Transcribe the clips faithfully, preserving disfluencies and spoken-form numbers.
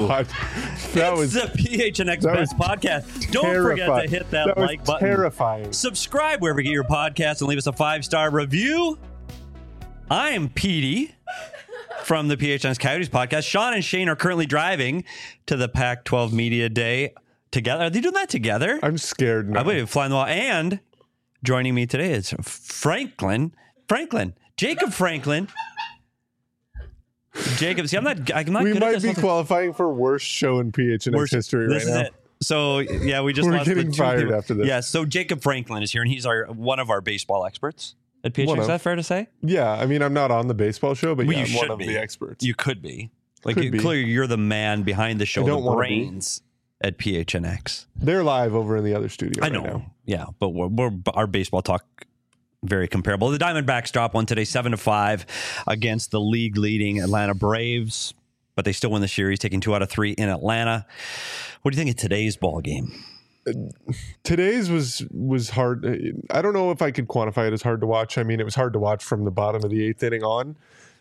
God. That it's was the P H N X Best Podcast. Don't terrifying. forget to hit that, that like was button. Terrifying. Subscribe wherever you get your podcast and leave us a five-star review. I'm Petey from the P H N X Coyotes podcast. Sean and Shane are currently driving to the Pac twelve Media Day together. Are they doing that together? I'm scared now. I believe flying the wall. And joining me today is Franklin. Franklin. Jacob Franklin. Jacob, see, I'm not, I'm not we good at might this. be qualifying for worst show in P H N X Worst- history this right is now. it. So, yeah, we just We're lost the getting two fired people. after this. Yeah, so Jacob Franklin is here, and he's our one of our baseball experts at P H N X. One Is of. that fair to say? Yeah, I mean, I'm not on the baseball show, but Well, yeah, you I'm one should of be. the experts. You could be. Like, Could you, be. clearly, you're the man behind the show, I the don't wanna be. brains at P H N X. They're live over in the other studio I right know. now. Yeah, but we're, we're our baseball talk very comparable. The Diamondbacks drop one today, seven to five, against the league leading Atlanta Braves, but they still win the series, taking two out of three in Atlanta. What do you think of today's ball game? Today's was was hard. I don't know if I could quantify it as hard to watch. I mean, it was hard to watch from the bottom of the eighth inning on.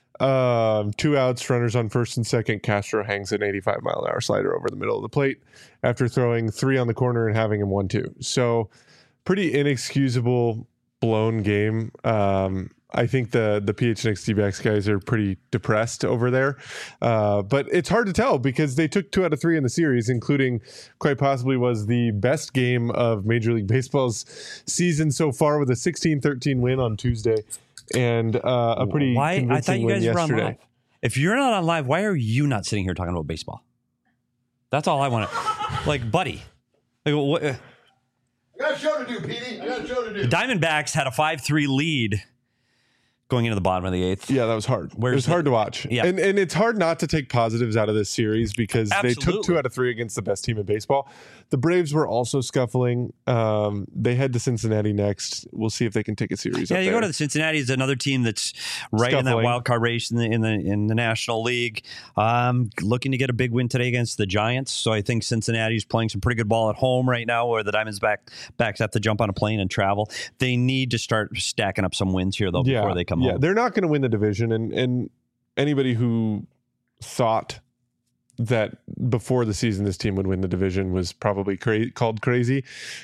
Um, two outs, runners on first and second. Castro hangs an eighty-five mile an hour slider over the middle of the plate after throwing three on the corner and having him one two. So pretty inexcusable blown game. Um, I think the the P H N X D-backs guys are pretty depressed over there. Uh, but it's hard to tell because they took two out of three in the series, including quite possibly was the best game of Major League Baseball's season so far with a sixteen thirteen win on Tuesday and uh, a pretty Why? I convincing thought you win guys were on yesterday. live. If you're not on live, why are you not sitting here talking about baseball? That's all I want to. Like, buddy. Like, what, uh, I got a show to do, Petey. I got a show to do. the Diamondbacks had a five three lead going into the bottom of the eighth. Yeah, that was hard. Where's it was the- hard to watch. Yeah. And and it's hard not to take positives out of this series because they took Absolutely. two out of three against the best team in baseball. The Braves were also scuffling. Um, they head to Cincinnati next. We'll see if they can take a series Yeah, up you there. go to the Cincinnati is another team that's right in that Scuffling. wild card race in the in the in the National League. Um, looking to get a big win today against the Giants. So I think Cincinnati's playing some pretty good ball at home right now, where the Diamonds back backs have to jump on a plane and travel. They need to start stacking up some wins here though before they come yeah. home. They're not going to win the division, and and anybody who thought that before the season this team would win the division was probably cra- called crazy.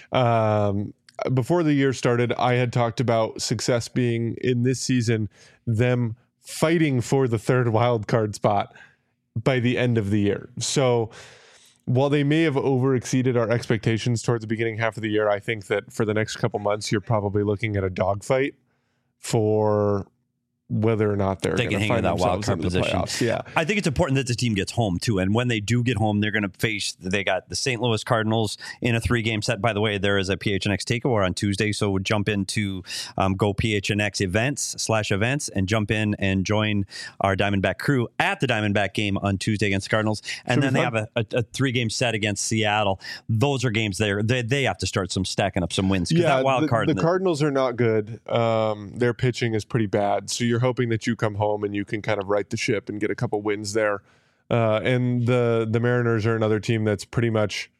Um, before the year started, I had talked about success being in this season them fighting for the third wild card spot by the end of the year. So while they may have over exceeded our expectations towards the beginning half of the year, I think that for the next couple months, you're probably looking at a dogfight for whether or not they're They going can to hang in find that wild themselves card in the position. playoffs. Yeah. I think it's important that the team gets home too, and when they do get home, they're going to face. They got the Saint Louis Cardinals in a three-game set. By the way, there is a P H N X takeover on Tuesday, so we'll jump into um, go P H N X events slash events and jump in and join our Diamondback crew at the Diamondback game on Tuesday against the Cardinals, and Should then be they fun. have a, a, a three-game set against Seattle. Those are games there. They they have to start some stacking up some wins. 'Cause Yeah, that wild the, card. the in the- Cardinals are not good. Um, their pitching is pretty bad. So you're hoping that you come home and you can kind of right the ship and get a couple wins there. Uh, and the the Mariners are another team that's pretty much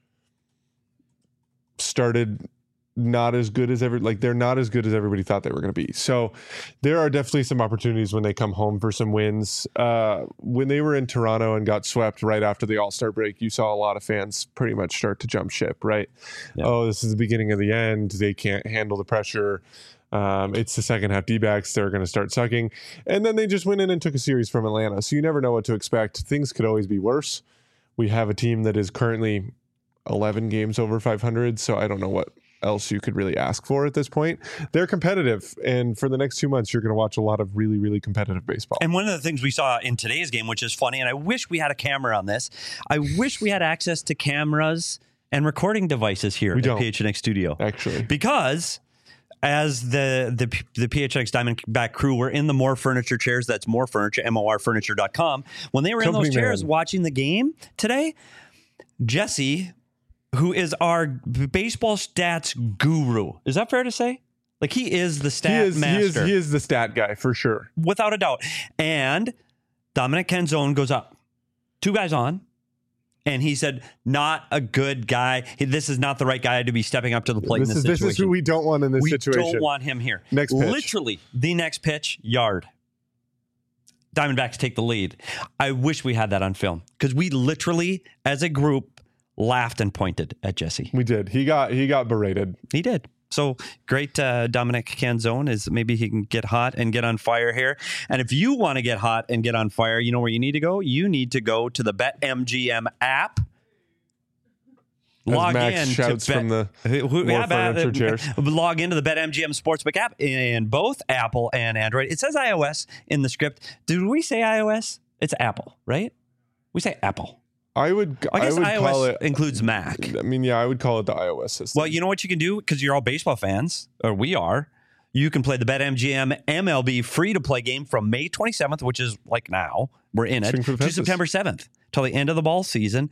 started not as good as ever. Like they're not as good as everybody thought they were going to be. So there are definitely some opportunities when they come home for some wins. Uh, when they were in Toronto and got swept right after the All-Star break, you saw a lot of fans pretty much start to jump ship, right? Yeah. Oh, this is the beginning of the end. They can't handle the pressure. Um, it's the second half D-backs. They're going to start sucking. And then they just went in and took a series from Atlanta. So you never know what to expect. Things could always be worse. We have a team that is currently eleven games over five hundred. So I don't know what else you could really ask for at this point. They're competitive. And for the next two months, you're going to watch a lot of really, really competitive baseball. And one of the things we saw in today's game, which is funny, and I wish we had a camera on this. I wish we had access to cameras and recording devices here We at don't. P H N X Studio. Actually. Because as the the the P H X Diamondback crew were in the More Furniture chairs, that's More Furniture, M O R furniture dot com, when they were in Company those chairs man. watching the game today, Jesse, who is our baseball stats guru, is that fair to say? Like he is the He stat is, he, master. is, he is the stat guy for sure. Without a doubt. And Dominic Canzone goes up. Two guys on. And he said, not a good guy. He- This is not the right guy to be stepping up to the plate This in is, this this situation. is who we don't want in this we situation. don't want him here. Next pitch. Literally, the next pitch, yard. Diamondbacks take the lead. I wish we had that on film because we literally, as a group, laughed and pointed at Jesse. We did. He got he got berated. He did. So great, uh, Dominic Canzone is maybe he can get hot and get on fire here. And if you want to get hot and get on fire, you know where you need to go? You need to go to the BetMGM app. As Log Max in shouts to bet, from the who, more yeah, furniture uh, chairs. Log into the BetMGM Sportsbook app in both Apple and Android. It says iOS in the script. Did we say iOS? It's Apple, right? We say Apple. I would. I guess I would iOS call it includes Mac. I mean, yeah, I would call it the iOS system. Well, you know what you can do because you're all baseball fans, or we are. You can play the BetMGM M L B free-to-play game from May twenty-seventh, which is like now. We're in it, to September seventh, till the end of the ball season.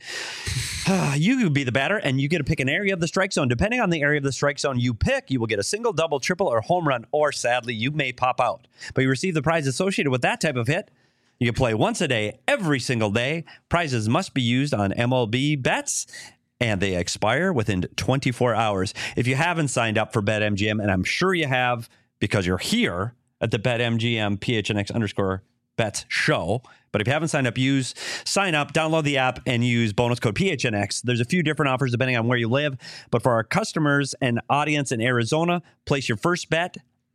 You could be the batter, and you get to pick an area of the strike zone. Depending on the area of the strike zone you pick, you will get a single, double, triple, or home run, or sadly, you may pop out. But you receive the prize associated with that type of hit. You can play once a day, every single day. Prizes must be used on M L B bets, and they expire within twenty-four hours. If you haven't signed up for BetMGM, and I'm sure you have because you're here at the BetMGM P H N X underscore bets show, but if you haven't signed up, use sign up, download the app, and use bonus code P H N X. There's a few different offers depending on where you live, but for our customers and audience in Arizona, place your first bet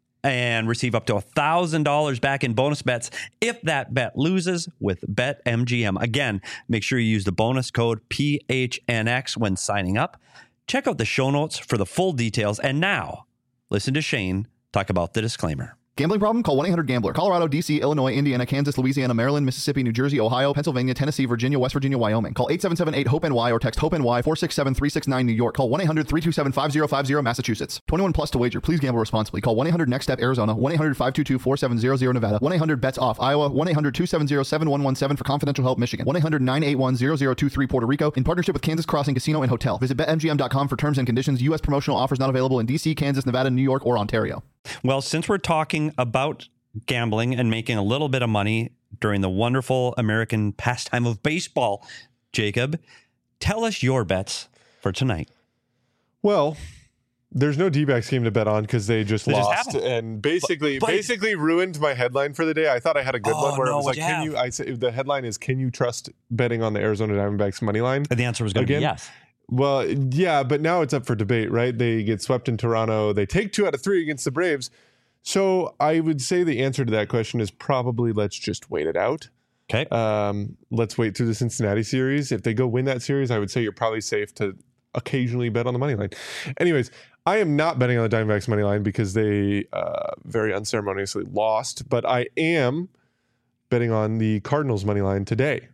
and receive up to one thousand dollars back in bonus bets if that bet loses with BetMGM. Again, make sure you use the bonus code P H N X when signing up. Check out the show notes for the full details. And now, listen to Shane talk about the disclaimer. Gambling problem? Call one eight hundred gambler. Colorado, D C, Illinois, Indiana, Kansas, Louisiana, Maryland, Mississippi, New Jersey, Ohio, Pennsylvania, Tennessee, Virginia, West Virginia, Wyoming. Call eight seven seven eight hope N Y or text HOPE-NY four six seven three six nine New York. Call one eight hundred three two seven five zero five zero Massachusetts. twenty-one plus to wager. Please gamble responsibly. Call one eight hundred next step Arizona. one eight hundred five two two four seven zero zero Nevada. one eight hundred bets off Iowa. one eight hundred two seven zero seven one one seven for confidential help Michigan. one eight hundred nine eight one zero zero two three Puerto Rico in partnership with Kansas Crossing Casino and Hotel. Visit bet M G M dot com for terms and conditions. U S promotional offers not available in D C, Kansas, Nevada, New York, or Ontario. Well, since we're talking about gambling and making a little bit of money during the wonderful American pastime of baseball, Jacob, tell us your bets for tonight. Well, there's no D-backs game to bet on because they just They just lost happened. and basically But- but- basically ruined my headline for the day. I thought I had a good Oh, one where no, it was like, what'd you can have? you? I say the headline is, can you trust betting on the Arizona Diamondbacks money line? The answer was going to be Again? yes. Well, yeah, but now it's up for debate, right? They get swept in Toronto. They take two out of three against the Braves. So I would say the answer to that question is probably let's just wait it out. Okay. Um, let's wait through the Cincinnati series. If they go win that series, I would say you're probably safe to occasionally bet on the money line. Anyways, I am not betting on the Diamondbacks money line because they uh, very unceremoniously lost, but I am betting on the Cardinals money line today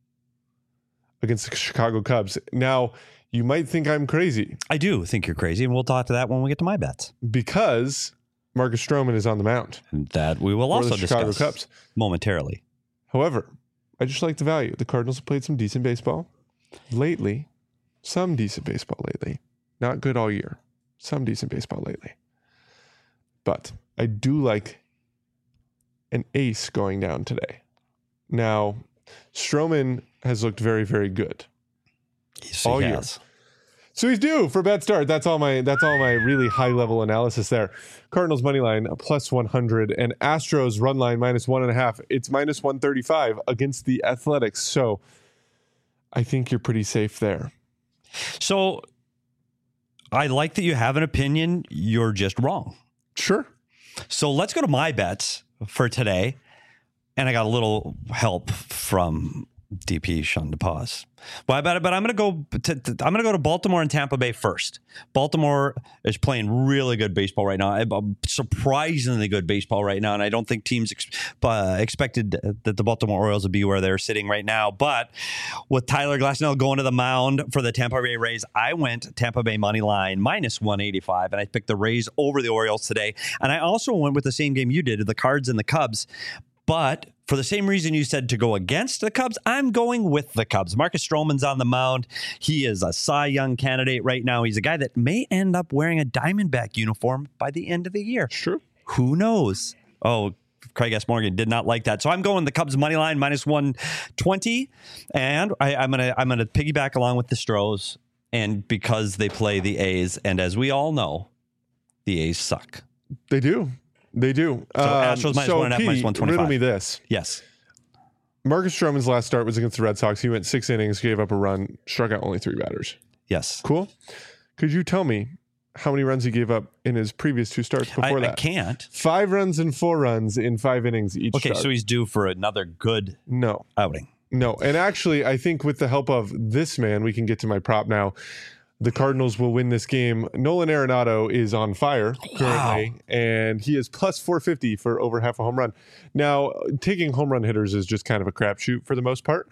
against the Chicago Cubs. Now, you might think I'm crazy I do think you're crazy, and we'll talk to that when we get to my bets. because Marcus Stroman is on the mound And that we will for also the Chicago discuss Cubs. momentarily. However, I just like the value. The Cardinals have played some decent baseball lately. Some decent baseball lately. Not good all year. Some decent baseball lately. But I do like an ace going down today. Now, Stroman has looked very, very good Yes, all he year. has. So he's due for bet start. That's all my that's all my really high level analysis there. Cardinals money line plus one hundred and Astros run line minus one and a half. It's minus one thirty five against the Athletics. So I think you're pretty safe there. So I like that you have an opinion. You're just wrong. Sure. So let's go to my bets for today. And I got a little help from D P Sean DePaz. Well, but but I'm going to go to, to I'm going to go to Baltimore and Tampa Bay first. Baltimore is playing really good baseball right now, surprisingly good baseball right now, and I don't think teams ex, uh, expected that the Baltimore Orioles would be where they're sitting right now. But with Tyler Glasnow going to the mound for the Tampa Bay Rays, I went Tampa Bay money line minus one eighty-five, and I picked the Rays over the Orioles today. And I also went with the same game you did, the Cards and the Cubs. But for the same reason you said to go against the Cubs, I'm going with the Cubs. Marcus Stroman's on the mound. He is a Cy Young candidate right now. He's a guy that may end up wearing a Diamondback uniform by the end of the year. Sure. Who knows? Oh, Craig S. Morgan did not like that. So I'm going the Cubs money line minus one twenty. And I, I'm going to I'm gonna piggyback along with the Stros. And because they play the A's. And as we all know, the A's suck. They do. They do. So Astros minus so one and a half, P, minus one twenty-five. riddle me this. Yes. Marcus Stroman's last start was against the Red Sox. He went six innings, gave up a run, struck out only three batters. Yes. Cool. Could you tell me how many runs he gave up in his previous two starts before I, that? I can't. Five runs and four runs in five innings each Okay, start. so he's due for another good No. outing. No. And actually, I think with the help of this man, we can get to my prop now. The Cardinals will win this game. Nolan Arenado is on fire currently, wow. and he is plus four fifty for over half a home run. Now, taking home run hitters is just kind of a crapshoot for the most part,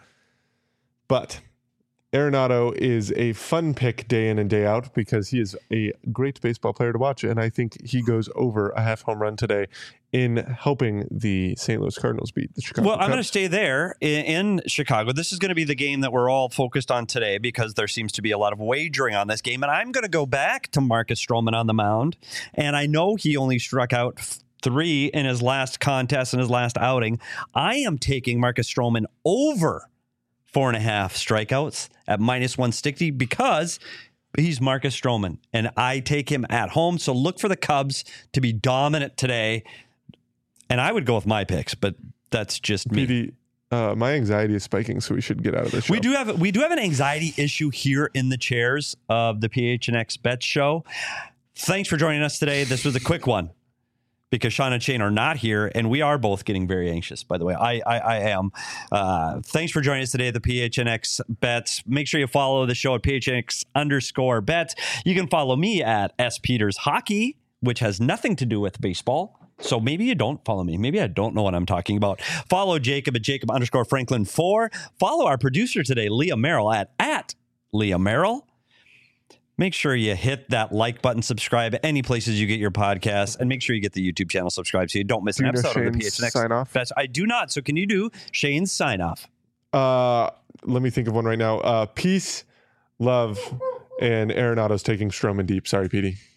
but Arenado is a fun pick day in and day out because he is a great baseball player to watch, and I think he goes over a half home run today in helping the Saint Louis Cardinals beat the Chicago Well, Cubs. I'm going to stay there in, in Chicago. This is going to be the game that we're all focused on today because there seems to be a lot of wagering on this game, and I'm going to go back to Marcus Stroman on the mound, and I know he only struck out three in his last contest in his last outing. I am taking Marcus Stroman over four and a half strikeouts at minus one sixty because he's Marcus Stroman, and I take him at home. So look for the Cubs to be dominant today. And I would go with my picks, but that's just me. P D, uh, my anxiety is spiking, so we should get out of this show. We do have we do have an anxiety issue here in the chairs of the P H N X Bets show. Thanks for joining us today. This was a quick one because Sean and Shane are not here, and we are both getting very anxious, by the way. I I, I am. Uh, thanks for joining us today at the P H N X Bets. Make sure you follow the show at P H N X underscore bets. You can follow me at S Peters Hockey, which has nothing to do with baseball. So maybe you don't follow me. Maybe I don't know what I'm talking about. Follow Jacob at Jacob underscore Franklin four. Follow our producer today, Leah Merrill, at, at Leah Merrill. Make sure you hit that like button, subscribe any places you get your podcasts, and make sure you get the YouTube channel subscribed so you don't miss do an you know episode of the Shane's P H N X. sign off? Bets. I do not. So can you do Shane's sign off? Uh, let me think of one right now. Uh, peace, love, and Arenado's taking Stroman deep. Sorry, P D.